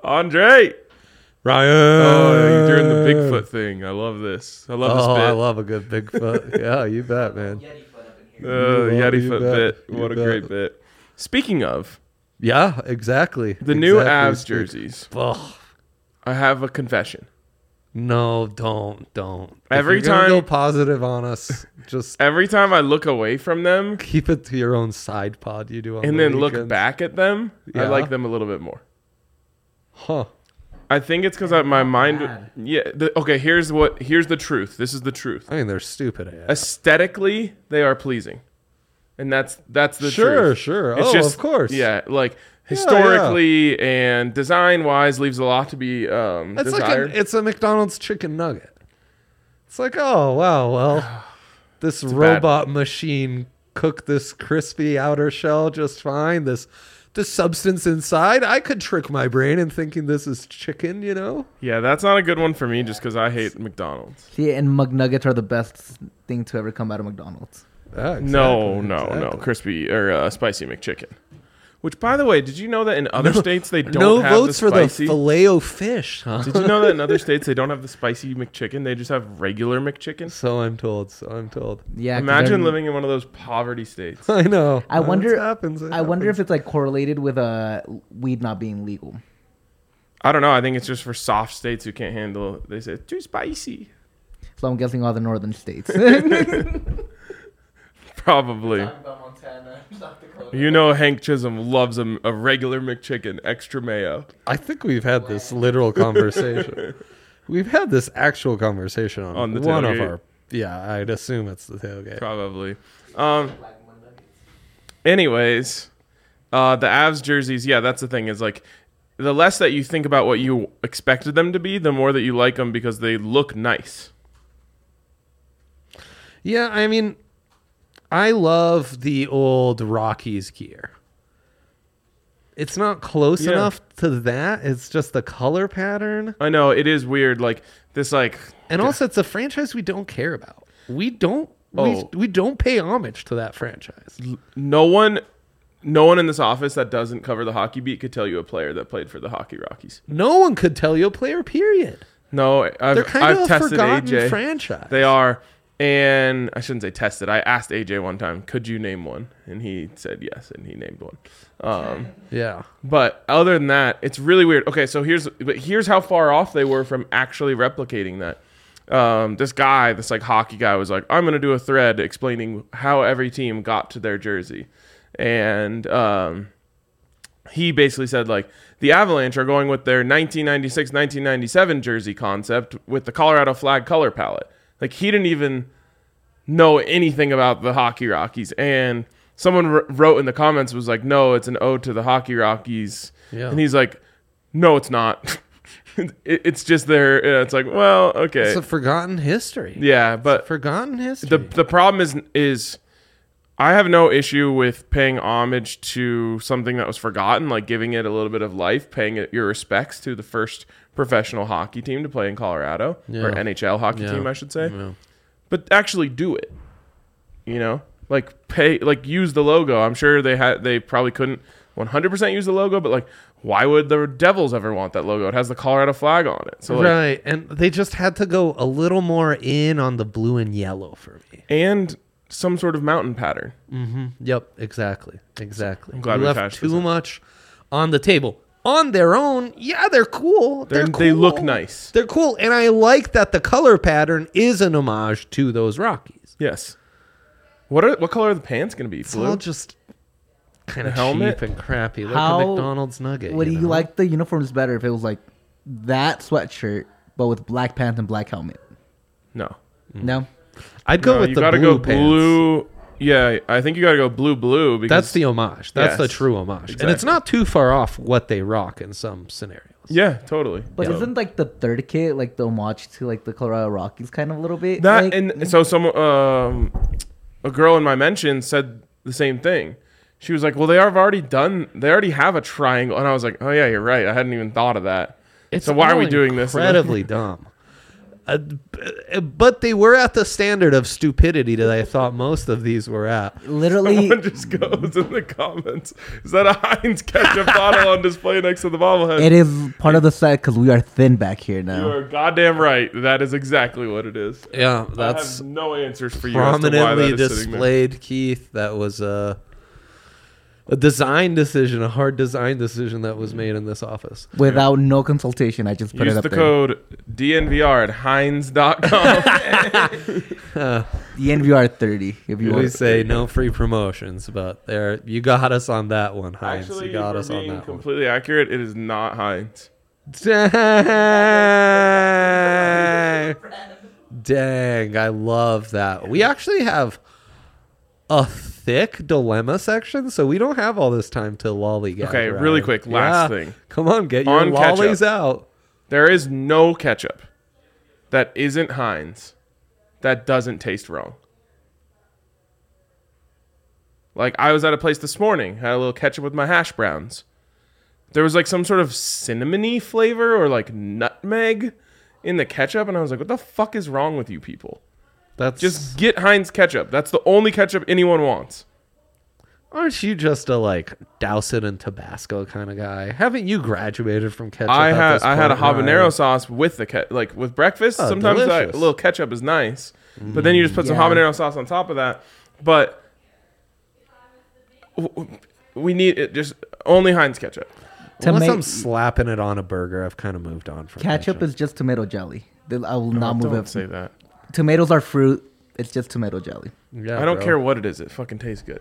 Andre. Ryan. Oh, you're doing the Bigfoot thing. I love this. I love this bit. I love a good Bigfoot. Yeah, you bet, man. Yeti foot bit. What a bet. great bit. Speaking of Yeah, exactly. the new Avs jerseys, Ugh. I have a confession. No, don't. Every If you're gonna time- go positive on us, just Every time I look away from them keep it to your own side pod you do on and the then look weekends. back at them, I Yeah. like them a little bit more. Huh. I think it's because my mind. bad. Yeah. Okay. Here's the truth. This is the truth. I mean, they're stupid. Aesthetically, they are pleasing, and that's the Sure, truth. sure. It's Oh, of course. Yeah. Like historically and design wise, leaves a lot to be It's desired. it's a McDonald's chicken nugget. It's like, oh wow, well, this bad- robot machine cooked this crispy outer shell just fine. This substance inside, I could trick my brain in thinking this is chicken. You know? Yeah, that's not a good one for me, just because I hate McDonald's. See, and McNuggets are the best thing to ever come out of McDonald's. Yeah, No, exactly. crispy or spicy McChicken. Which, by the way, did you know that in other states they don't No have votes the for the spicy? Filet-O-Fish, huh? Did you know that in other states they don't have the spicy McChicken? They just have regular McChicken. So I'm told. Yeah. 'cause Imagine they're- living in one of those poverty states. I know. I wonder. It happens. I wonder if it's like correlated with weed not being legal. I don't know. I think it's just for soft states who can't handle. They say too spicy. So I'm guessing all the northern states. Probably. about Montana, South Dakota. You know, Hank Chisholm loves a regular McChicken, extra mayo. I think we've had this literal conversation. We've had this actual conversation On the one of tailgate. our. Yeah, I'd assume it's the tailgate. Probably. Anyways, the Avs jerseys. Yeah, that's the thing. Is like the less that you think about what you expected them to be, the more that you like them because they look nice. Yeah, I mean, I love the old Rockies gear. It's not close Yeah. enough to that. It's just the color pattern. I know it is weird. Like this, like And also, it's a franchise we don't care about. We don't. Oh. We don't pay homage to that franchise. no one in this office that doesn't cover the hockey beat could tell you a player that played for the Hockey Rockies. No one could tell you a player. Period. No, They're I've kind of a tested forgotten AJ. franchise. They are, and I shouldn't say tested. I asked AJ one time, "Could you name one?" And he said yes, and he named one. Yeah. But other than that, it's really weird. Okay, so here's how far off they were from actually replicating that. This like hockey guy was like, I'm gonna do a thread explaining how every team got to their jersey, and he basically said like the Avalanche are going with their 1996-1997 jersey concept with the Colorado flag color palette. Like he didn't even know anything about the Hockey Rockies, and someone wrote in the comments was like, no, it's an ode to the Hockey Rockies. Yeah. And he's like, no, it's not. It's just their. It's like, well, okay, It's a forgotten history. yeah, but Forgotten history. the problem is I have no issue with paying homage to something that was forgotten, like giving it a little bit of life, paying it your respects to the first professional hockey team to play in Colorado, or Yeah. NHL hockey Yeah. team, I should say. Yeah. But actually do it. You know, like use the logo. I'm sure they probably couldn't 100% use the logo, but like, why would the Devils ever want that logo? It has the Colorado flag on it. So like, Right, and they just had to go a little more in on the blue and yellow for me. and some sort of mountain pattern. Yep, exactly. I'm glad We we left hashed this too out. much on the table. On their own, yeah, they're cool. They look nice. They're cool, and I like that the color pattern is an homage to those Rockies. Yes. What color are the pants going to be? It's Blue? all just kind of helmet? cheap and crappy. Like How- a McDonald's nugget. Would you know? like the uniforms better if it was like that sweatshirt, but with black pants and black helmet? No. No. I'd go No, with you the gotta blue go pants. blue. Yeah, I think you got to go blue because That's the homage. That's the Yes, true homage, and it's exactly. not too far off what they rock in some scenarios. Yeah, totally. But Yeah. isn't like the third kit like the homage to like the Colorado Rockies kind of a little bit? That like, and so some a girl in my mention said the same thing. She was like, "Well, they already have a triangle," and I was like, "Oh yeah, you're right. I hadn't even thought of that." It's So why are all we doing this? Incredibly dumb. But they were at the standard of stupidity that I thought most of these were at. Literally, Someone just goes in the comments. Is that a Heinz ketchup bottle on display next to the bobblehead? it is part of the set because we are thin back here You now. are goddamn right. That is exactly what it is. Yeah, I that's have no answers for you as to why that prominently is sitting there. displayed, Keith. That was a design decision, a hard design decision that was made in this office. Without no consultation, I just put Use it up the there. code DNVR at Heinz.com. The NVR 30. If you We want. say no free promotions, but there you got us on that one, Heinz. Actually, you got for us on being that one. completely accurate, it is not Heinz. Dang. Dang, I love that. We actually have a thick dilemma section, so we don't have all this time to lollygag. Okay, around. really quick, last Yeah. thing. Come on, get your On lollies ketchup. out. There is no ketchup that isn't Heinz that doesn't taste wrong. Like, I was at a place this morning, had a little ketchup with my hash browns. There was like some sort of cinnamony flavor or like nutmeg in the ketchup, and I was like, what the fuck is wrong with you people? That's Just get Heinz ketchup. That's the only ketchup anyone wants. aren't you just a like douse it in Tabasco kind of guy? Haven't you graduated from ketchup? I at had a this point, habanero Ryan? sauce with the like with breakfast. Oh, Sometimes delicious. a little ketchup is nice, but then you just put some Yeah. habanero sauce on top of that. But we need it just only Heinz ketchup. Unless Toma- I'm slapping it on a burger, I've kind of moved on from Ketchup is just tomato jelly. I will not move Don't it. say that. Tomatoes are fruit. It's just tomato jelly. Yeah, I don't bro. care what it is. It fucking tastes good.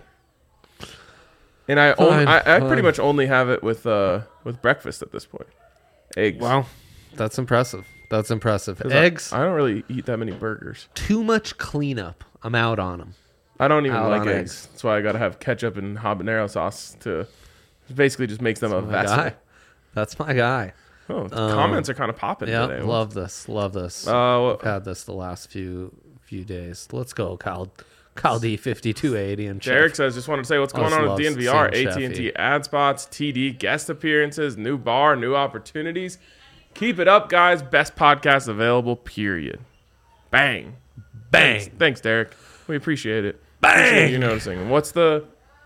And I Fine, I pretty fine. much only have it with breakfast at this point. Eggs. Wow, that's impressive. That's impressive. 'Cause Eggs, I don't really eat that many burgers. too much cleanup. I'm out on them. I don't even Out like on eggs. eggs. That's why I gotta have ketchup and habanero sauce to. Basically, just makes them a My vessel. guy. That's my guy. Oh, the comments are kind of popping Yeah, today. love this. Love this. Uh, I've had this the last few days. Let's go, Kyle D5280 and Derek Chef. says, just wanted to say what's I going just on love with DNVR, seeing AT&T Sheffy. ad spots, TD guest appearances, new bar, new opportunities. Keep it up, guys. Best podcast available, period. Bang. Bang. Thanks, Derek. We appreciate it. Bang. Appreciate you noticing. What's the...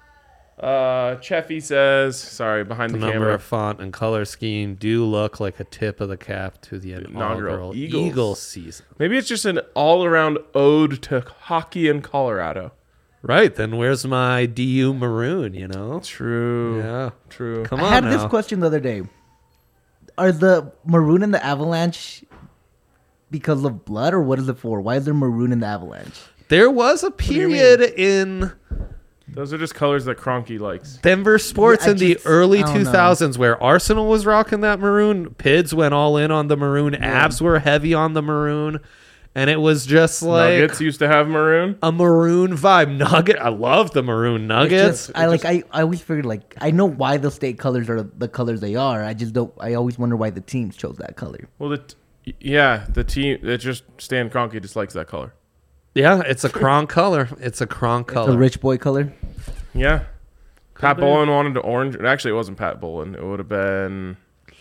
Cheffy says, sorry, behind The the number camera. of font and color scheme do look like a tip of the cap to the inaugural inaugural Eagles. Eagles season. Maybe it's just an all-around ode to hockey in Colorado. Right, then where's my DU maroon, you know? True. Yeah. True. Come I on had now. this question the other day. Are the maroon and the avalanche because of blood, or what is it for? Why is there maroon in the avalanche? There was a do you period in Those are just colors that Cronky likes. Denver sports Yeah, I in the just- early I don't know. 2000s where Arsenal was rocking that maroon. Pids went all in on the maroon. Abs were heavy on the maroon. And it was just like Nuggets used to have maroon. a maroon vibe. Nugget. I love the maroon nuggets. I always figured, like, I know why the state colors are the colors they are. I just don't. I always wonder why the teams chose that color. Well, the team that just Stan Kroenke just likes that color. Yeah, it's a Kronk color. It's a Kronk color. The rich boy color. Yeah. Pat be. Bolin wanted to orange. Actually, it wasn't Pat Bolin. It would have been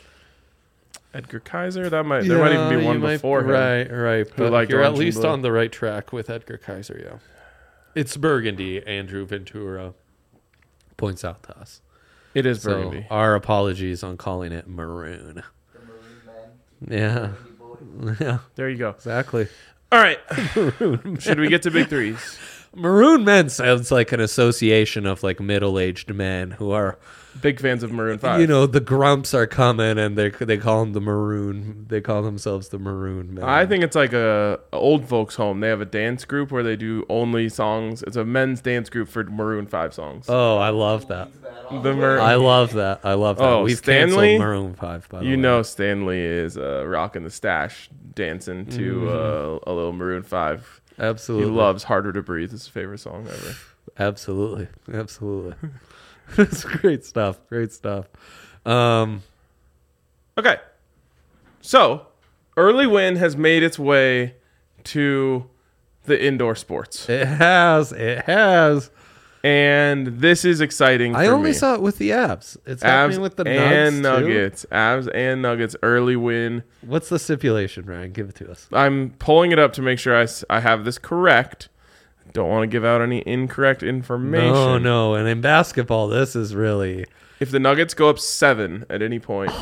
Edgar Kaiser. There might even be you one might before be him. Right. But liked you're at orange and least blue. on the right track with Edgar Kaiser, yeah. It's Burgundy, Andrew Ventura points out to us. It is So Burgundy. our apologies on calling it maroon. Yeah. Yeah, There you go. exactly. All right. Should we get to big threes? Maroon men sounds like an association of like middle-aged men who are, Big fans of Maroon 5. you know, the grumps are coming and they call them the maroon. They call themselves the maroon men. I think it's like a old folks home. They have a dance group where they do only songs. It's a men's dance group for Maroon 5 songs. Oh, I love that. The Maroon. I love that. I love that. Oh, We've Stanley? canceled Maroon 5, by the way. You know Stanley is rocking the stash, dancing to a little Maroon 5. He Absolutely. loves Harder to Breathe. It's his favorite song ever. Absolutely. It's great stuff. Great stuff. Okay. So, Early Win has made its way to the indoor sports. It has. And this is exciting I for only me. saw it with the abs. It's Avs happening with the and Nuggets, too? Nuggets. Avs and Nuggets early win. What's the stipulation, Ryan? Give it to us. I'm pulling it up to make sure I have this correct. Don't want to give out any incorrect information. No. And in basketball, this is really... If the Nuggets go up 7 at any point,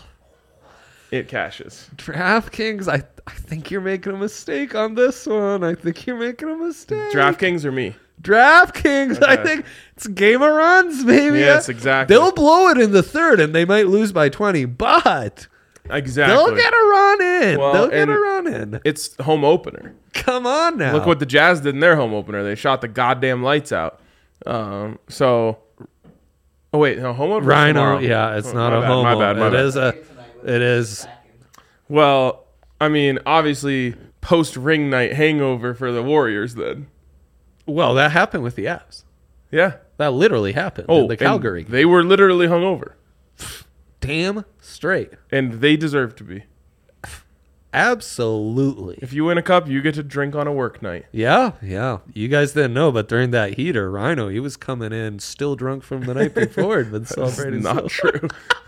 it cashes. DraftKings, I think you're making a mistake on this one. I think you're making a mistake. DraftKings or me? DraftKings, I Okay. think it's a game of runs, baby. Yes, exactly. They'll blow it in the third, and they might lose by 20, but Exactly. they'll get a run in. Well, They'll get and a run in. It's home opener. Come on now. Look what the Jazz did in their home opener. They shot the goddamn lights out. So, oh wait, no, home opener. Rhino, tomorrow. yeah, it's Oh, not my a bad, homo. My bad. My bad. It is. Well, I mean, obviously, post ring night hangover for the Warriors. Then, Well, that happened with the Avs. yeah. That literally happened in the and Calgary. They were literally hungover, Damn straight. and they deserve to be. Absolutely. If you win a cup, you get to drink on a work night. Yeah. You guys didn't know, but during that heater, Rhino, he was coming in still drunk from the night before and been It's celebrating. not true.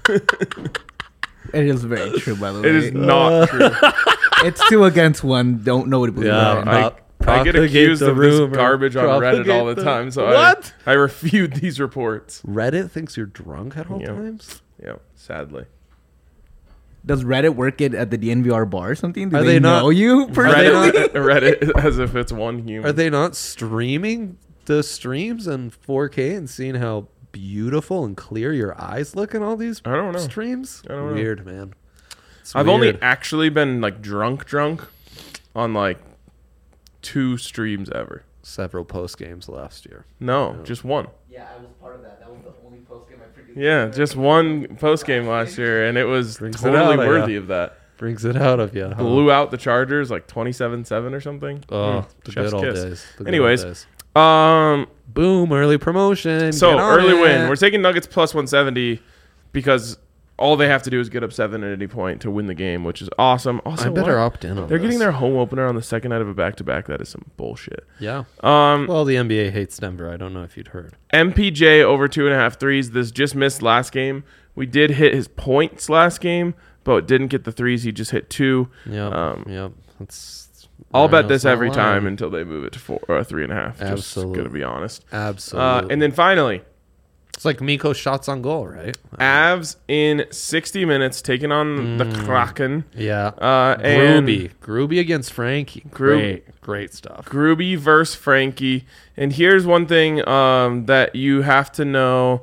It is very true, by the way. It is not true. It's 2 against 1. Don't nobody believe Yeah, that. I get propagate accused the of this rumor. garbage on Reddit all the Propagate time, so What? I refute these reports. Reddit thinks you're drunk at all Yeah. times? Yeah, sadly. Does Reddit work at the DNVR bar or something? Do Are they they not- know you personally? Reddit as if it's one human. Are they not streaming the streams in 4K and seeing how beautiful and clear your eyes look in all these I don't know. streams? I don't know. Weird, man. It's I've only weird. actually been like drunk on like 2 streams ever. several post games last year. No, just one. Yeah, I was part of that. That was the only post game I predicted. Yeah, just one post game last year, and it was Brings it totally out of worthy ya. of that. Brings it out of you. Huh? Blew out the Chargers like 27-7 or something. Oh, the Chef's good old kiss. days. The good Anyways, old days. Um, Boom, early promotion. so Get on early it. win. We're taking Nuggets plus 170 because all they have to do is get up 7 at any point to win the game, which is awesome. Also, I better why- opt in on They're this. getting their home opener on the second night of a back-to-back. That is some bullshit. Yeah. Um, Well, the NBA hates Denver. I don't know if you'd heard. MPJ over 2.5 threes. This just missed last game. We did hit his points last game, but didn't get the threes. He just hit 2. Yep. Yep. That's. I'll bet Rhino's this not every lying. time until they move it to 4 or 3.5. Just Absolutely. gonna be honest. Absolutely. And then finally, it's like Miko's shots on goal, right? Avs in 60 minutes taking on the Kraken. Yeah. And Groovy against Frankie. Groob- Great stuff. Gruby versus Frankie. And here's one thing that you have to know.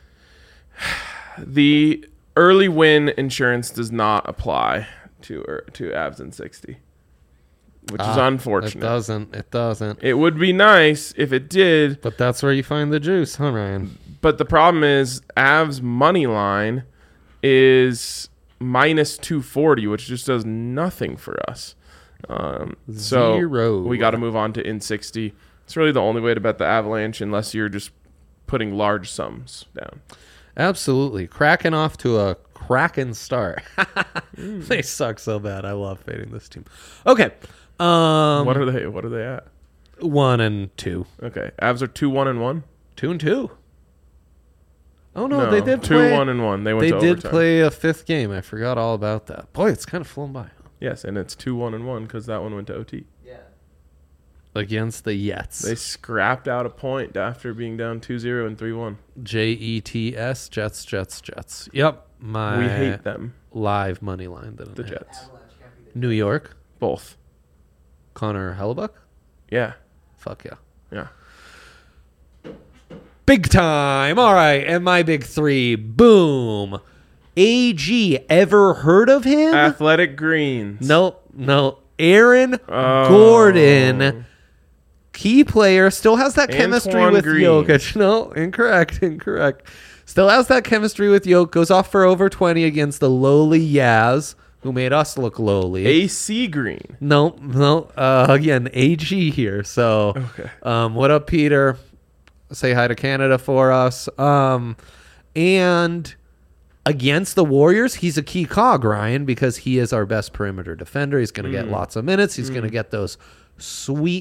The early win insurance does not apply to Avs in 60, which is unfortunate. It doesn't. It would be nice if it did, But that's where you find the juice, huh, Ryan? but the problem is Avs money line is minus 240, which just does nothing for us. So Zero. we got to move on to in 60. It's really the only way to bet the Avalanche unless you're just putting large sums down. Absolutely. Cracking off to a cracking start. They suck so bad. I love fading this team. Okay. What are they at? 1 and 2. Okay, Avs are 2-1-1. 2 and 2. Oh no, they did 2-1-1. They went They to did overtime. play a 5th game. I forgot all about that. Boy, it's kind of flown by. Yes, and it's 2-1-1 because that one went to OT. Yeah. Against the Jets. They scrapped out a point after being down 2-0 and 3-1. Jets, Jets. Yep. My We hate them, live money line. the Didn't it? Jets. New York. Both. Connor Hellebuck. Yeah. Fuck yeah. Yeah. Big time. All right. And my big 3. Boom. AG. Ever heard of him? Athletic Greens. No. Aaron Oh. Gordon. Key player. Still has that chemistry Antoine with Green. Jokic. No, incorrect. Still has that chemistry with Jokic. Goes off for over 20 against the lowly Yaz, who made us look lowly. AC Green. No. Again, AG here. So, Okay. what up, Peter? Say hi to Canada for us. And against the Warriors, he's a key cog, Ryan, because he is our best perimeter defender. He's going to get lots of minutes. He's going to get those sweet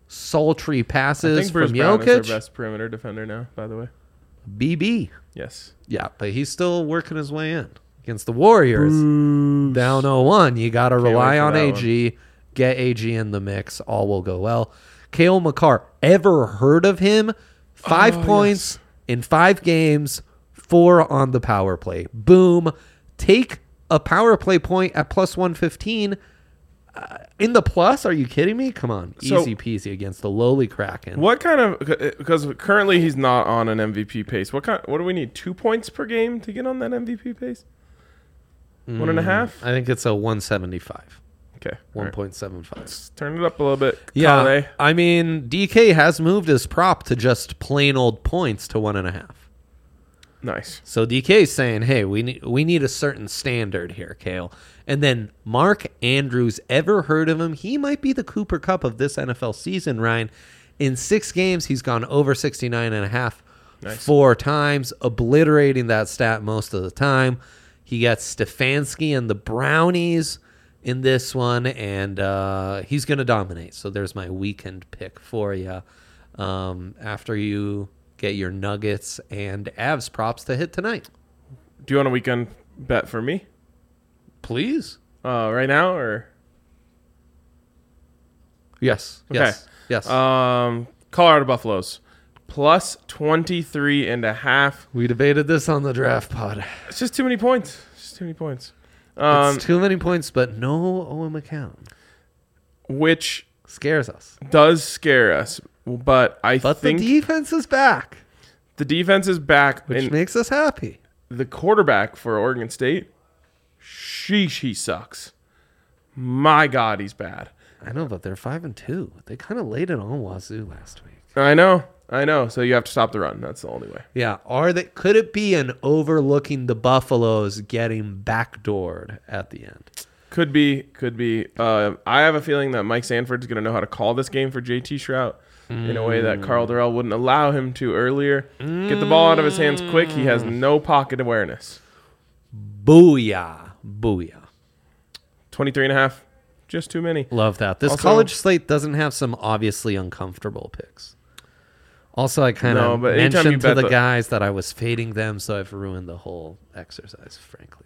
sultry I passes think Bruce from Brown is Jokic. our best perimeter defender now, by the way. BB. Yes. Yeah, but he's still working his way in against the Warriors. Down 0-1. You got to rely wait for on that AG. Get AG in the mix. All will go well. Kale McCarr. Ever heard of him? 5 points in 5 games. 4 on the power play. Boom. Take a power play point at plus 115. In the plus? Are you kidding me? Come on. So- Easy peasy against the lowly Kraken. What kind of, because currently he's not on an MVP pace. What do we need? 2 points per game to get on that MVP pace? 1.5? I think it's a 175. Okay. all right. 1.75. Let's turn it up a little bit. Yeah, Kale. I mean, DK has moved his prop to just plain old points to 1.5. Nice. So DK's saying, hey, we need a certain standard here, Kale. And then Mark Andrews, ever heard of him? He might be the Cooper Cup of this NFL season, Ryan. In 6 games, he's gone over 69.5 Nice. 4 times, obliterating that stat most of the time. He gets Stefanski and the Brownies in this one, and he's going to dominate. So there's my weekend pick for you. After you get your Nuggets and Avs props to hit tonight. Do you want a weekend bet for me? Please. Right now or? Yes. Okay. Yes. Yes. Colorado Buffaloes. Plus 23.5. We debated this on the draft pod. It's just too many points. Just too many points. It's too many points, but no Owen McCown. Which Scares us. does scare us. But I But think the defense is back, the defense is back. which And makes us happy. the quarterback for Oregon State, sheesh, he sucks. My God, he's bad. I know, but they're 5-2. They kind of laid it on Wazoo last week. I know. So you have to stop the run. That's the only way. Yeah. Could it be an overlooking the Buffaloes getting backdoored at the end? Could be. I have a feeling that Mike Sanford's going to know how to call this game for JT Shrout in a way that Carl Durrell wouldn't allow him to earlier. Get the ball out of his hands quick. He has no pocket awareness. Booyah. 23.5. Just too many. Love that. This Also- college slate doesn't have some obviously uncomfortable picks. Also, I kind No, of but anytime you mentioned to bet the the- guys that I was fading them, so I've ruined the whole exercise, frankly.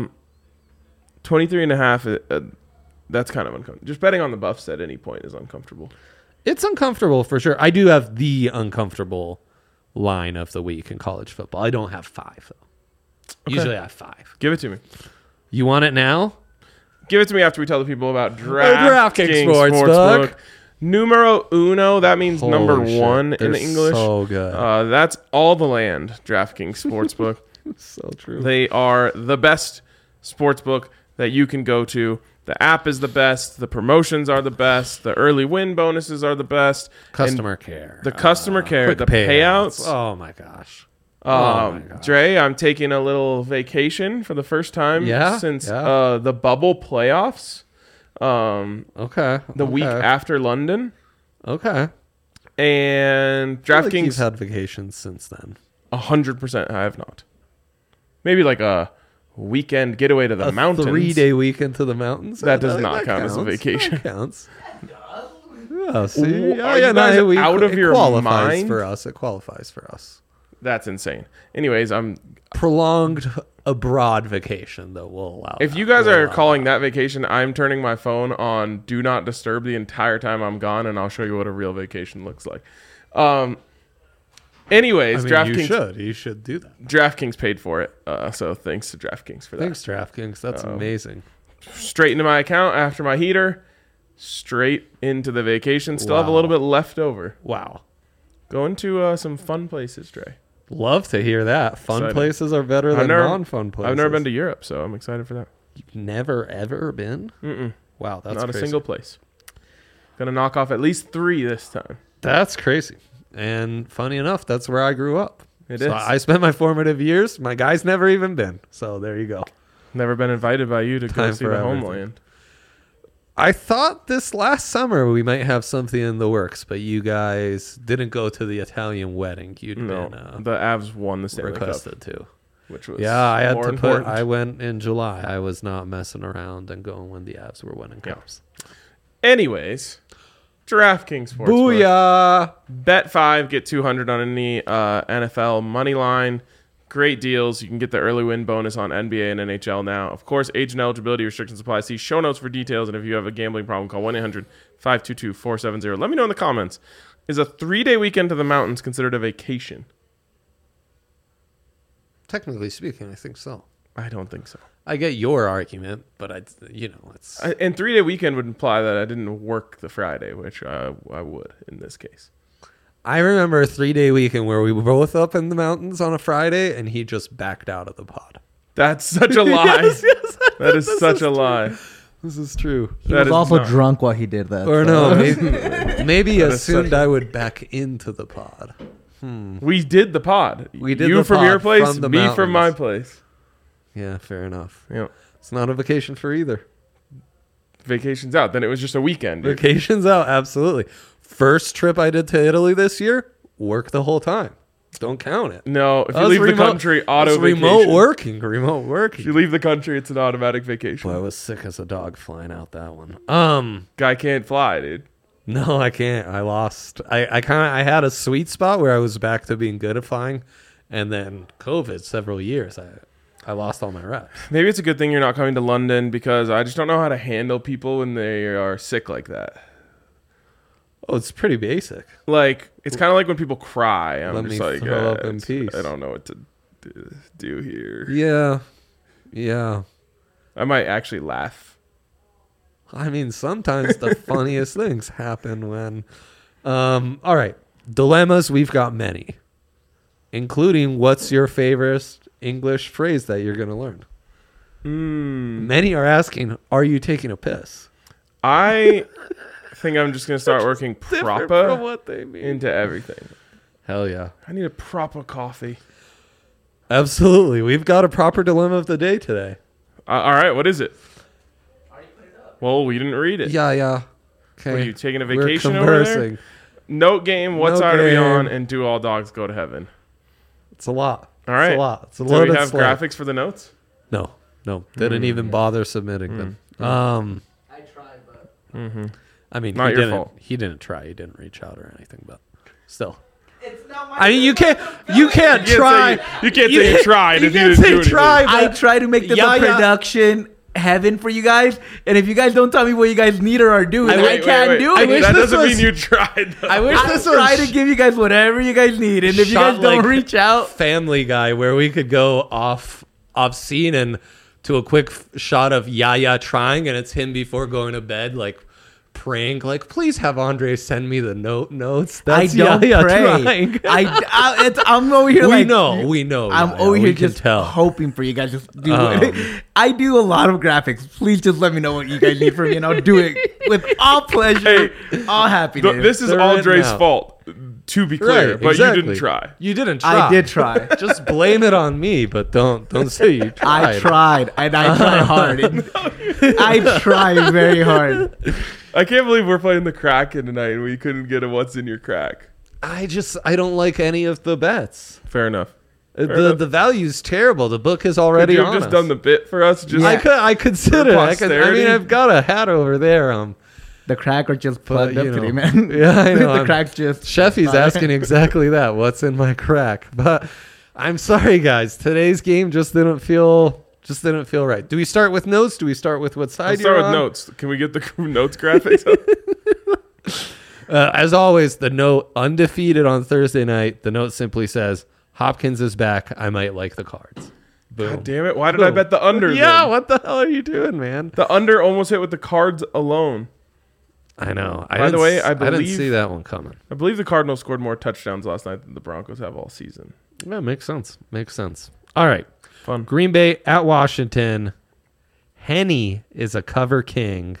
23.5. That's kind of uncomfortable. Just betting on the Buffs at any point is uncomfortable. It's uncomfortable for sure. I do have the uncomfortable line of the week in college football. I don't have 5, though. Usually I have 5. Give it to me. You want it now? Give it to me after we tell the people about DraftKings DraftKings Sportsbook. Numero uno. That means number Holy shit. 1 in They're English. so good. That's all the land. DraftKings Sportsbook. So true. They are the best sportsbook that you can go to. The app is the best. The promotions are the best. The early win bonuses are the best. Customer care. The customer care. Quick The payouts. Oh, my gosh. Oh my gosh. Dre, I'm taking a little vacation for the first time since Yeah. the bubble playoffs. Okay. The week after London. Okay. And I feel like DraftKings, you've had vacations since then. 100%. I have not. Maybe like a weekend getaway to the mountains. 3-day weekend to the mountains. That does not count as a vacation. That counts. Yeah, see, Ooh, are you guys out of your qualifies mind? for us. It qualifies for us. That's insane. Anyways, Prolonged abroad vacation, though, will allow. if that. you guys We'll are allow calling that vacation, I'm turning my phone on Do Not Disturb the entire time I'm gone, and I'll show you what a real vacation looks like. Anyways, that. I mean, DraftKings. you should do that. DraftKings paid for it, so thanks to DraftKings for that. Thanks, DraftKings. That's amazing. Straight into my account after my heater, straight into the vacation. Still have a Wow. little bit left over. Wow. Going to some fun places, Dre. Love to hear that. Fun Excited. places are better than non-fun places. I've never been to Europe, so I'm excited for that. You've never ever been? Mm-mm. Wow, that's Not crazy. a single place. Gonna knock off at least 3 this time. That's crazy. And funny enough, that's where I grew up. It So is. I spent my formative years. My guy's never even been. So there you go. Never been invited by you to go Time see for the everything. homeland. I thought this last summer we might have something in the works, but you guys didn't go to the Italian wedding. You'd No, been the Avs won the Stanley Cup, requested to. which was Yeah, I had more to important. I went in July. I was not messing around and going when the Avs were winning Yeah. cups. Anyways, DraftKings Sportsbook. Booyah! Bet 5, get 200 on any NFL money line. Great deals. You can get the early win bonus on NBA and NHL now. Of course, age and eligibility restrictions apply. See show notes for details. And if you have a gambling problem, call 1-800-522-4700. Let me know in the comments. Is a 3-day weekend to the mountains considered a vacation? Technically speaking, I think so. I don't think so. I get your argument, but it's And 3-day weekend would imply that I didn't work the Friday, which I would in this case. I remember a 3-day weekend where we were both up in the mountains on a Friday, and he just backed out of the pod. That's such a lie. Yes, that is such a lie. This is true. He That was is also not- drunk while he did that. Or so- no, maybe That is assumed such- I would back into the pod. We did the pod. We did you the from pod your place, from the me from my mountains. place. Yeah, fair enough. Yeah. It's not a vacation for either. Vacation's out. Then it was just a weekend. dude. Vacation's out, absolutely. First trip I did to Italy this year, work the whole time. Don't count it. No, if you Us leave the remote- country, auto us vacation. remote working. If you leave the country, it's an automatic vacation. Boy, I was sick as a dog flying out that one. Guy can't fly, dude. No, I can't. I lost. I had a sweet spot where I was back to being good at flying, and then COVID several years. I lost all my reps. Maybe it's a good thing you're not coming to London because I just don't know how to handle people when they are sick like that. Oh, it's pretty basic. Like, it's kind of like when people cry. I'm Let just me like, throw up in it's- peace. I don't know what to do here. Yeah. I might actually laugh. I mean, sometimes the funniest things happen when. All right, dilemmas. We've got many, including what's your favorite English phrase that you're going to learn. Many are asking, "Are you taking a piss?" I think I'm just going to start working Different from proper what they mean. into everything. Hell yeah. I need a proper coffee. Absolutely. We've got a proper dilemma of the day today. All right, what is it? Well, we didn't read it. Yeah. Okay. Were you taking a We're vacation over there? conversing. Note game, what Note side are we game. on, and do all dogs go to heaven? It's a lot. All right. It's a lot. It's a Do loaded we have slate. graphics for the notes? No. Didn't even bother submitting them. I tried, but I mean, Not he your didn't. fault. He didn't try. He didn't reach out or anything. But still, it's not my. I mean, you can't try. You can't say you tried You if you can't didn't do say anything. try. I But try to make this Yeah, a yeah. production heaven for you guys, and if you guys don't tell me what you guys need or are doing, I can't do I it. wish That this doesn't was- mean you tried. Though. I wish I this try was to give you guys whatever you guys need, and if you shot guys don't like reach out, Family Guy, where we could go off scene and to a quick shot of Yaya trying, and it's him before going to bed, like praying, like, please have Andre send me the notes. That's I don't Yaya pray. trying. I'm over here. we like, know. I'm Yaya, over we here can just tell. hoping for you guys. Just do it. I do a lot of graphics. Please just let me know what you guys need from me, and I'll do it with all pleasure, all happiness. This is They're all in Dre's now. fault, to be clear, Right, but exactly. you didn't try. You didn't try. I did try. Just blame it on me, but don't say you tried. I tried, and I tried hard. I tried very hard. I can't believe we're playing the Kraken tonight and we couldn't get a what's in your crack. I don't like any of the bets. Fair enough. The value's terrible. The book is Could already you on have just us. done the bit for us? Just I consider. For I posterity? mean, I've got a hat over there. The crack are just plugged you up know. today, man. Yeah, I know. the crack's just. Sheffy's asking exactly that. What's in my crack? But I'm sorry, guys. Today's game just didn't feel right. Do we start with notes? Do we start with what side Let's you're start with on? notes. Can we get the notes graphics? As always, the note undefeated on Thursday night. The note simply says, "Hopkins is back. I might like the Cards." Boom. God damn it. Why did I bet the under? Yeah, then? what the hell are you doing, man? The under almost hit with the Cards alone. I know. By the way, I didn't believe- see that one coming. I believe the Cardinals scored more touchdowns last night than the Broncos have all season. Yeah, makes sense. All right. Fun. Green Bay at Washington. Heine is a cover king.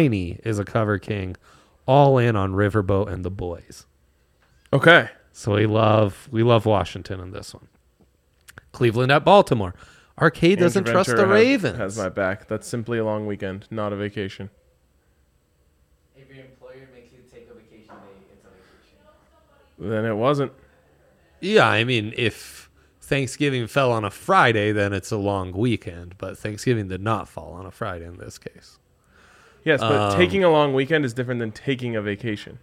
All in on Riverboat and the boys. Okay. So we love Washington in this one. Cleveland at Baltimore. Arcade doesn't Andrew trust the Ventura Ravens. Has my back. That's simply a long weekend, not a vacation. If your employer makes you take a vacation day, it's a vacation. Then it wasn't. Yeah, I mean, if Thanksgiving fell on a Friday, then it's a long weekend. But Thanksgiving did not fall on a Friday in this case. Yes, but taking a long weekend is different than taking a vacation.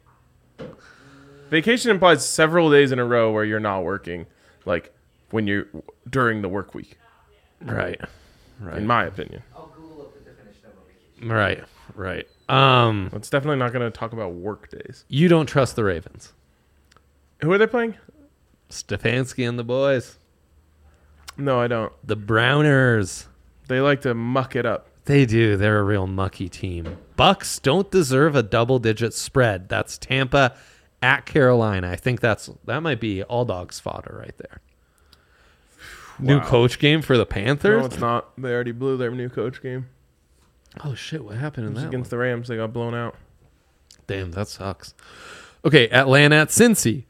Vacation implies several days in a row where you're not working, like when you're during the work week. Right. In my opinion, I'll Google up the definition of a vacation. Right. it's definitely not going to talk about work days. You don't trust the Ravens. Who are they playing? Stefanski and the boys. No, I don't. The Browners. They like to muck it up. They do. They're a real mucky team. Bucks don't deserve a double-digit spread. That's Tampa at Carolina. I think that might be all dogs fodder right there. New Wow. coach game for the Panthers? No, it's not. They already blew their new coach game. Oh, shit. What happened in It was that against one? the Rams. They got blown out. Damn, that sucks. Okay, Atlanta at Cincy.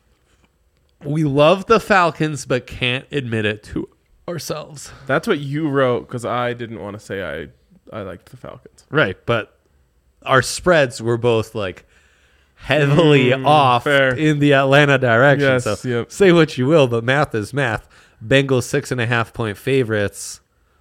We love the Falcons, but can't admit it to ourselves. That's what you wrote because I didn't want to say I liked the Falcons. Right, but our spreads were both like heavily off fair. in the Atlanta direction. Yes, So yep. say what you will, but math is math. Bengals 6.5-point favorites.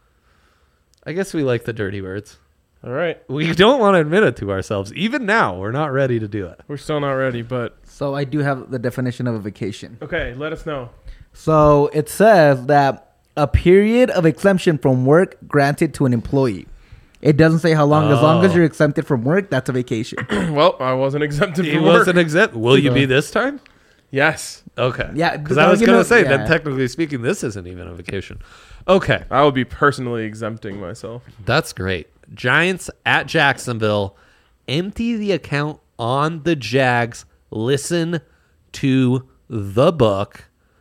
I guess we like the dirty words. All right. We don't want to admit it to ourselves. Even now, we're not ready to do it. We're still not ready, but So I do have the definition of a vacation. okay, let us know. So it says that a period of exemption from work granted to an employee. It doesn't say how long. As long as you're exempted from work, that's a vacation. Well, I wasn't exempted He from work. wasn't exempt. Will you be this time? Yes. Okay. Yeah, Because I was you going know- to say, yeah. then technically speaking, this isn't even a vacation. Okay. I would be personally exempting myself. That's great. Giants at Jacksonville. Empty the account on the Jags. Listen to the book.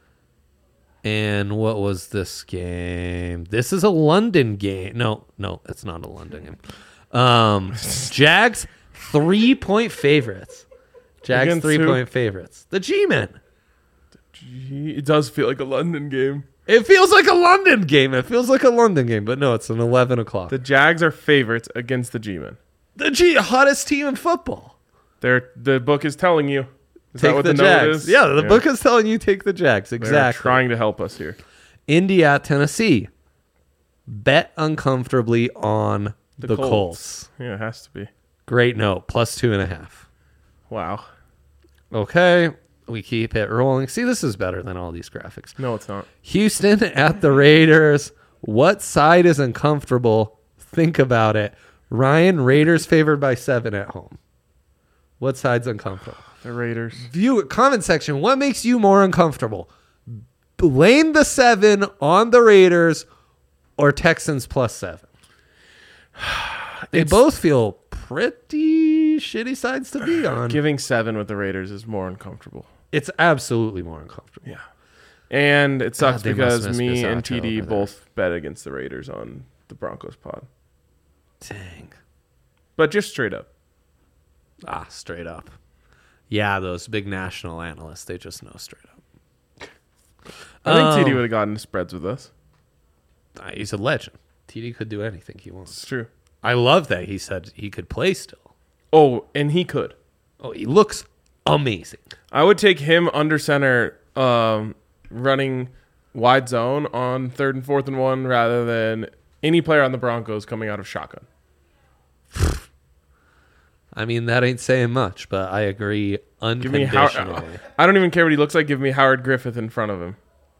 And what was this game? This is a London game. No, it's not a London game. Jags 3-point favorites. Jags Against who? 3-point favorites. The G-Men. Gee, it does feel like a London game. It feels like a London game. But no, it's an 11 o'clock. The Jags are favorites against the G-Men. The hottest team in football. The book is telling you. Is that Take what the the note Jags. is? Yeah, the book is telling you take the Jags. They're Exactly. trying to help us here. Indy at Tennessee. Bet uncomfortably on the Colts. Yeah, it has to be. Great note. +2.5. Wow. Okay. We keep it rolling. See, this is better than all these graphics. No, it's not. Houston at the Raiders. What side is uncomfortable? Think about it. Ryan, Raiders favored by 7 at home. What side's uncomfortable? The Raiders. View comment section. What makes you more uncomfortable? Blame the 7 on the Raiders or Texans +7. They both feel pretty shitty sides to be on. Giving 7 with the Raiders is more uncomfortable. It's absolutely more uncomfortable. Yeah. And it sucks God, they must because miss me Bisaccia and TD over there. both bet against the Raiders on the Broncos pod. Dang. But just straight up. Straight up. Yeah, those big national analysts, they just know straight up. I think TD would have gotten spreads with us. He's a legend. TD could do anything he wants. It's true. I love that he said he could play still. Oh, and he could. Oh, he looks amazing. I would take him under center running wide zone on 3rd and 4th and 1 rather than any player on the Broncos coming out of shotgun. I mean, that ain't saying much, but I agree Give me unconditionally. I don't even care what he looks like. Give me Howard Griffith in front of him.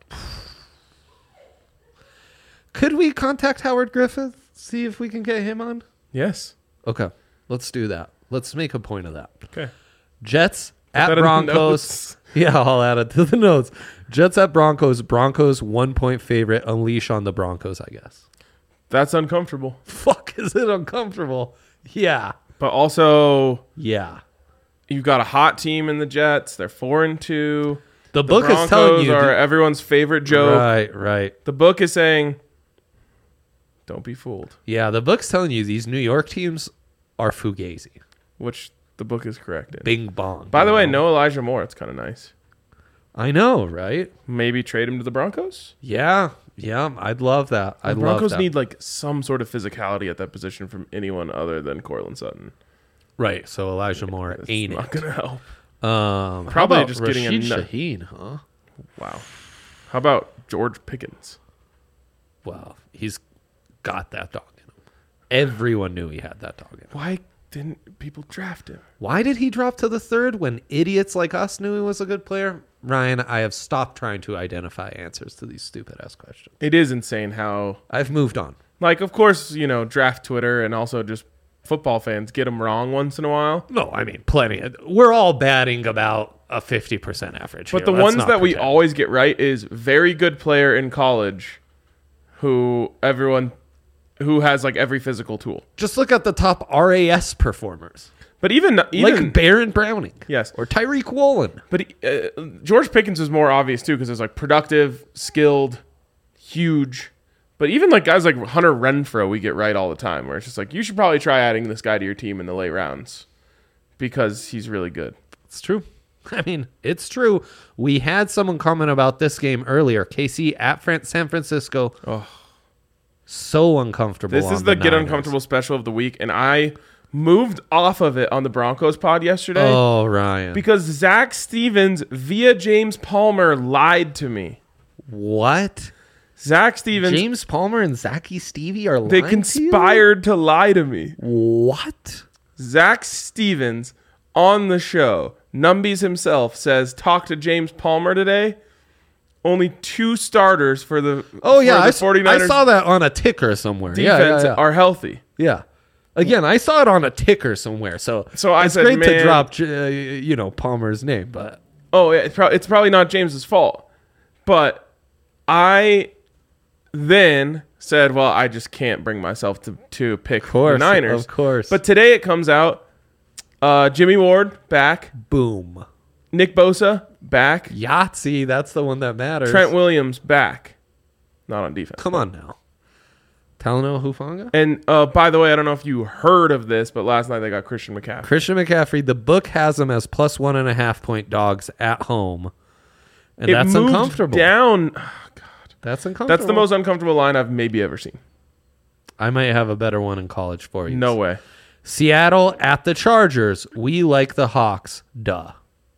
Could we contact Howard Griffith? See if we can get him on? Yes. Okay. Let's do that. Let's make a point of that. Okay. Jets at that in the Broncos. notes. Yeah, I'll add it to the notes. Jets at Broncos. Broncos 1-point favorite. Unleash on the Broncos, I guess. That's uncomfortable. Fuck, is it uncomfortable? Yeah. But also, Yeah. you've got a hot team in the Jets. They're 4-2. The The book Broncos is telling you. are everyone's favorite joke. Right. The book is saying, don't be fooled. Yeah, the book's telling you these New York teams are fugazi. Which the book is correct in. Bing bong. By the way, You know? no Elijah Moore. It's kind of nice. I know, right? Maybe trade him to the Broncos. Yeah, I'd love that. The I'd Broncos love that. need like some sort of physicality at that position from anyone other than Cortland Sutton. Right, so Elijah Moore It's ain't not it. gonna help. How Probably about just getting a Rashid nut- Shaheen, huh? Wow. How about George Pickens? Well, he's got that dog in him. Everyone knew he had that dog in him. Why didn't people draft him? Why did he drop to the 3rd when idiots like us knew he was a good player? Ryan, I have stopped trying to identify answers to these stupid-ass questions. It is insane how, I've moved on. like, of course, draft Twitter and also just football fans get them wrong once in a while. No, I mean, plenty. We're all batting about a 50% average. But here. the Let's ones not that we pretend. always get right is very good player in college who has like every physical tool. Just look at the top RAS performers. But even Like Baron Browning. yes, Or Tyreek Woolen. but George Pickens is more obvious too because it's like productive, skilled, huge. But even like guys like Hunter Renfrow, we get right all the time. Where it's just like you should probably try adding this guy to your team in the late rounds because he's really good. It's true. I mean, it's true. We had someone comment about this game earlier. KC at San Francisco. Oh. So uncomfortable. This is the Get Uncomfortable special of the week, and I moved off of it on the Broncos pod yesterday Oh, Ryan. because Zach Stevens via James Palmer lied to me. What? Zach Stevens, James Palmer and Zachy Stevie are they lying conspired to lie to me. to you? What? Zach Stevens on the show, Numbies himself, says, talk to James Palmer today. Only 2 starters for the, Oh, yeah. for the 49ers I saw that on a ticker somewhere. defense Yeah. are healthy. Yeah. Again, I saw it on a ticker somewhere. So I it's said, great to man- drop, Palmer's name, but Oh, yeah, it's probably not James's fault. But I then said, well, I just can't bring myself to pick the Niners. of course. But today it comes out, Jimmy Ward back, boom. Nick Bosa back, Yahtzee, that's the one that matters. Trent Williams back. Not on defense. Come on now. Talanoa Hufanga? And by the way, I don't know if you heard of this, but last night they got Christian McCaffrey. Christian McCaffrey, the book has him as plus 1.5 point dogs at home. And that's moved uncomfortable. down. That's uncomfortable. That's the most uncomfortable line I've maybe ever seen. I might have a better one in college for you. No way. Seattle at the Chargers. We like the Hawks. Duh.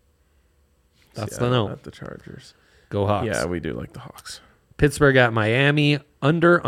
That's the Seattle note. at the Chargers. Go Hawks. Yeah, we do like the Hawks. Pittsburgh at Miami. Under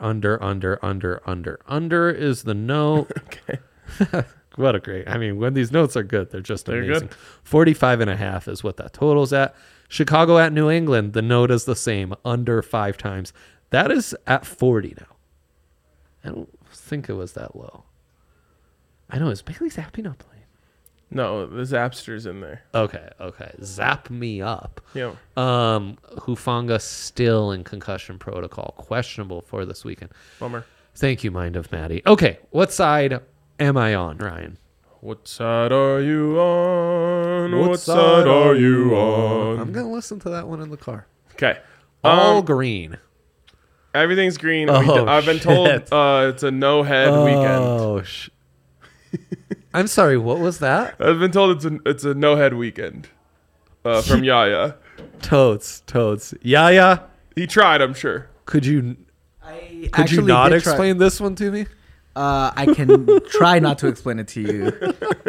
is the no. Okay. What a great. I mean, when these notes are good, they're just They're amazing. good. 45.5 is what that total's at. Chicago at New England. The note is the same. Under 5 times. That is at 40 now. I don't think it was that low. I know. Is Bailey Zappi not playing? No, the Zapster's in there. Okay. Zap me up. Yeah. Hufanga still in concussion protocol. Questionable for this weekend. Bummer. Thank you, Mind of Maddie. Okay, what side am I on, Ryan? What side are you on? What side are you on? I'm going to listen to that one in the car. Okay. All green. Everything's green. Oh, I've been told shit. it's a no-head weekend. Oh, I'm sorry, what was that? I've been told it's a no-head weekend from Yaya. Totes. Yaya, He tried, I'm sure. could you I not actually did try- explain this one to me? I can try not to explain it to you.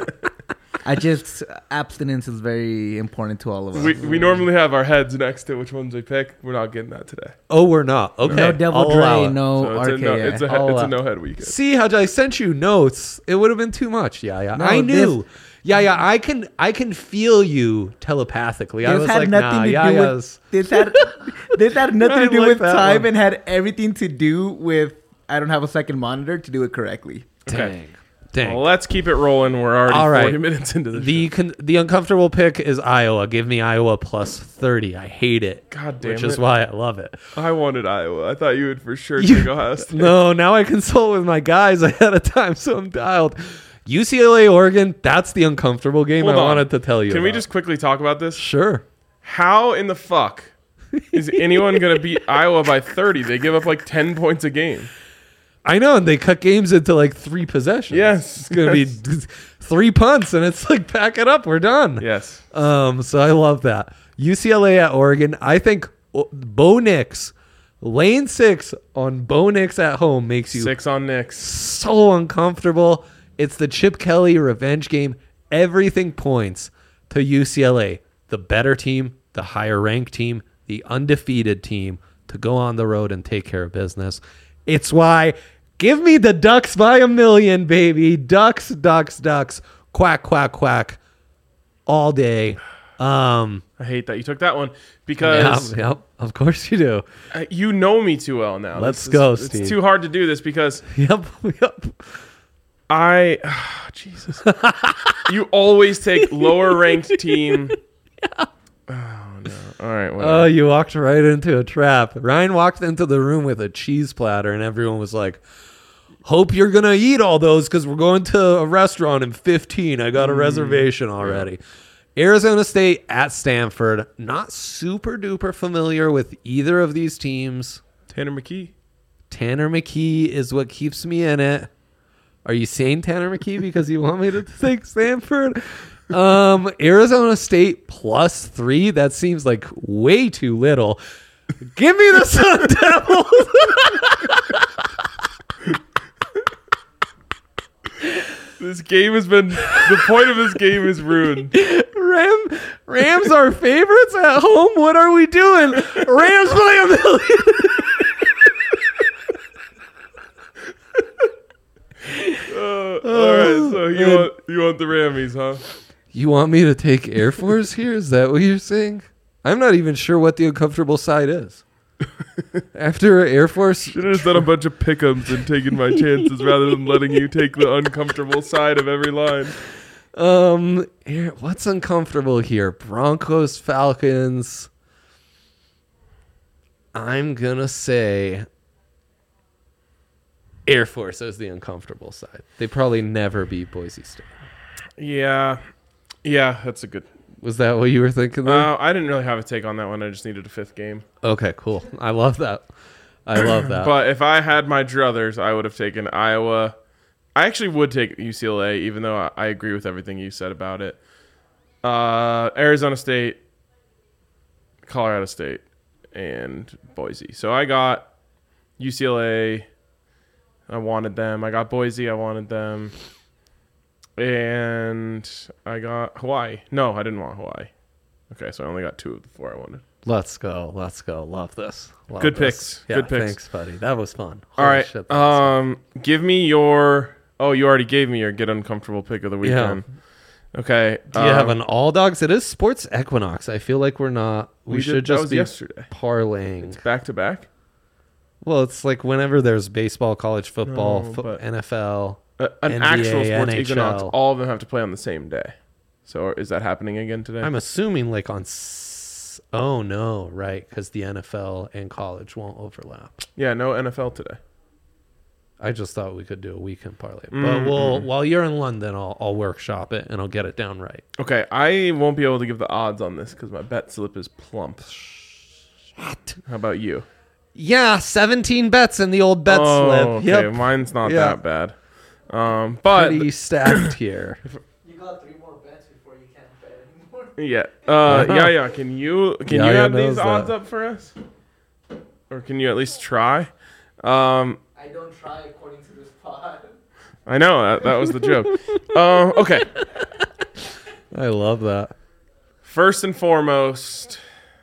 Abstinence is very important to all of us. We normally have our heads next to which ones we pick. We're not getting that today. Oh, we're not. Okay. No Devil I'll allow Dre, it. no So it's RKA. it's I'll a no-head weekend. See how I sent you notes? It would have been too much. Yeah. No, I knew. Yeah. I can feel you telepathically. I This was had like, nothing nah. to Yeah. do with this had nothing to do like with that time one. and had everything to do with I don't have a second monitor to do it correctly. Dang. Well, let's keep it rolling. We're already All right. 40 minutes into the show. The uncomfortable pick is Iowa. Give me Iowa plus 30. I hate it. God damn which it. is why I love it. I wanted Iowa. I thought you would for sure take Ohio State. No, now I consult with my guys ahead of time, so I'm dialed. UCLA, Oregon. That's the uncomfortable game Hold I on. wanted to tell you. Can we about. just quickly talk about this? Sure? How in the fuck is anyone going to beat Iowa by 30? They give up like 10 points a game. I know, and they cut games into like 3 possessions. Yes. It's gonna be 3 punts, and it's like pack it up, we're done. Yes. So I love that. UCLA at Oregon. I think Bo Nix, lane 6 on Bo Nix at home makes you 6 on Knicks. so uncomfortable. It's the Chip Kelly revenge game. Everything points to UCLA, the better team, the higher ranked team, the undefeated team, to go on the road and take care of business. It's why Give me the Ducks by a million, baby. Ducks, Ducks, Ducks. Quack, quack, quack. All day. I hate that you took that one because Yep, of course you do. you know me too well now. Let's go, It's Steve. too hard to do this because Yep. Jesus. You always take lower ranked team. Oh no. All right, whatever. Oh, you walked right into a trap. Ryan walked into the room with a cheese platter, and everyone was like, hope you're going to eat all those because we're going to a restaurant in 15. I got a reservation already. Arizona State at Stanford. Not super duper familiar with either of these teams. Tanner McKee. Tanner McKee is what keeps me in it. Are you saying Tanner McKee because you want me to take Stanford? Arizona State +3. That seems like way too little. Give me the Sun Devils. This game has been the point of this game is ruined. Rams are favorites at home. What are we doing? Rams by a million. All right, so you want the Rammies, huh? You want me to take Air Force here? Is that what you're saying? I'm not even sure what the uncomfortable side is. After Air Force, Should have just done a bunch of pick'ems and taken my chances rather than letting you take the uncomfortable side of every line. what's uncomfortable here? Broncos, Falcons. I'm gonna say Air Force as the uncomfortable side. They probably never beat Boise State. Yeah, that's a good. Was that what you were thinking there? I didn't really have a take on that one. I just needed a fifth game. Okay, cool. I love that. But if I had my druthers, I would have taken Iowa. I actually would take UCLA, even though I agree with everything you said about it. Arizona State, Colorado State, and Boise. So I got UCLA. I wanted them. I got Boise. I wanted them. And I got Hawaii. No, I didn't want Hawaii. Okay, so I only got 2 of the 4 I wanted. Let's go. Love this. Good picks. Yeah, Good picks. Thanks, buddy. That was fun. All Holy right. shit, that was fun. Give me your. Oh, you already gave me your get uncomfortable pick of the weekend. Okay. Do you have an all dogs? It is Sports Equinox. I feel like we're not. We should that just was be yesterday. parlaying. Back to back. Well, it's like whenever there's baseball, college football, No, but- NFL. An NBA, actual sports NHL. equinox. All of them have to play on the same day. So is that happening again today? I'm assuming like on. Oh no, right? Because the NFL and college won't overlap. Yeah, no NFL today. I just thought we could do a weekend parlay, but we'll while you're in London, I'll workshop it and I'll get it down right. Okay, I won't be able to give the odds on this because my bet slip is plump. What? How about you? Yeah, 17 bets in the old bet slip. Okay, Yep, mine's not Yeah. that bad. But pretty stacked here. You got 3 more bets before you can't bet anymore. yeah, yeah. Can you Yeah, add knows these odds that. up for us, or can you at least try? I don't try according to this pod. I know that was the joke. Okay. I love that. First and foremost,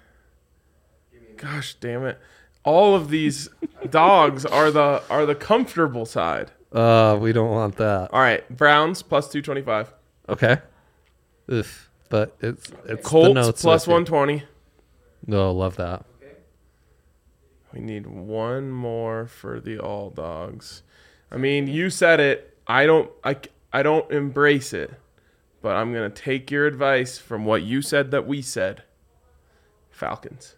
gosh damn it, all of these dogs are the comfortable side. We don't want that. All right, Browns plus 225, Okay. Oof. But it's the Colts notes plus with you. 120. No, love that. We need one more for the all dogs. I mean, you said it. I don't embrace it, but I'm gonna take your advice from what you said that we said. Falcons.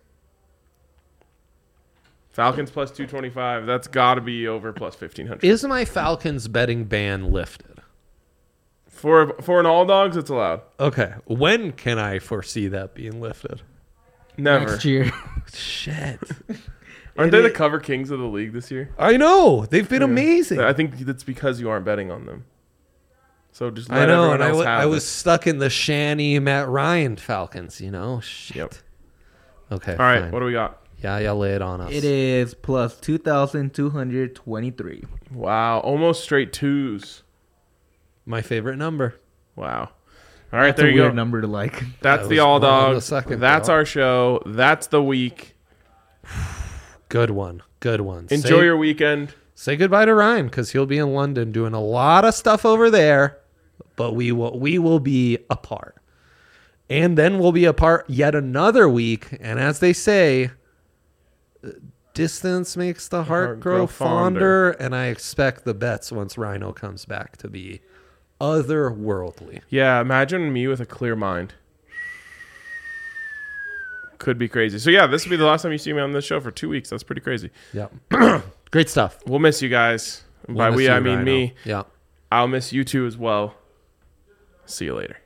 Falcons plus 225. That's got to be over plus 1,500. Is my Falcons betting ban lifted? For an all dogs, it's allowed. Okay. When can I foresee that being lifted? Never. Next year. Shit. Aren't they the cover kings of the league this year? I know. They've been amazing. I think that's because you aren't betting on them. So just let I know, everyone and else have I it. was stuck in the Shanny Matt Ryan Falcons, you know? Shit. Yep. Okay. All right, fine. what do we got? Yeah, lay it on us. It is plus 2,223. Wow, almost straight twos. My favorite number. Wow. All right, That's there a you weird go. number to like. That's That the was all more than the dogs. second, That's though. our show. That's the week. Good one. Good one. Enjoy your weekend. say goodbye to Ryan because he'll be in London doing a lot of stuff over there, but we will be apart. And then we'll be apart yet another week. And as they say, distance makes the heart grow fonder. And I expect the bets once Rhino comes back to be otherworldly. Yeah, imagine me with a clear mind. Could be crazy. So yeah, this will be the last time you see me on this show for 2 weeks. That's pretty crazy. Yeah. Great stuff. We'll miss you guys. And by we, I mean Rhino. me. Yeah. I'll miss you too as well. See you later.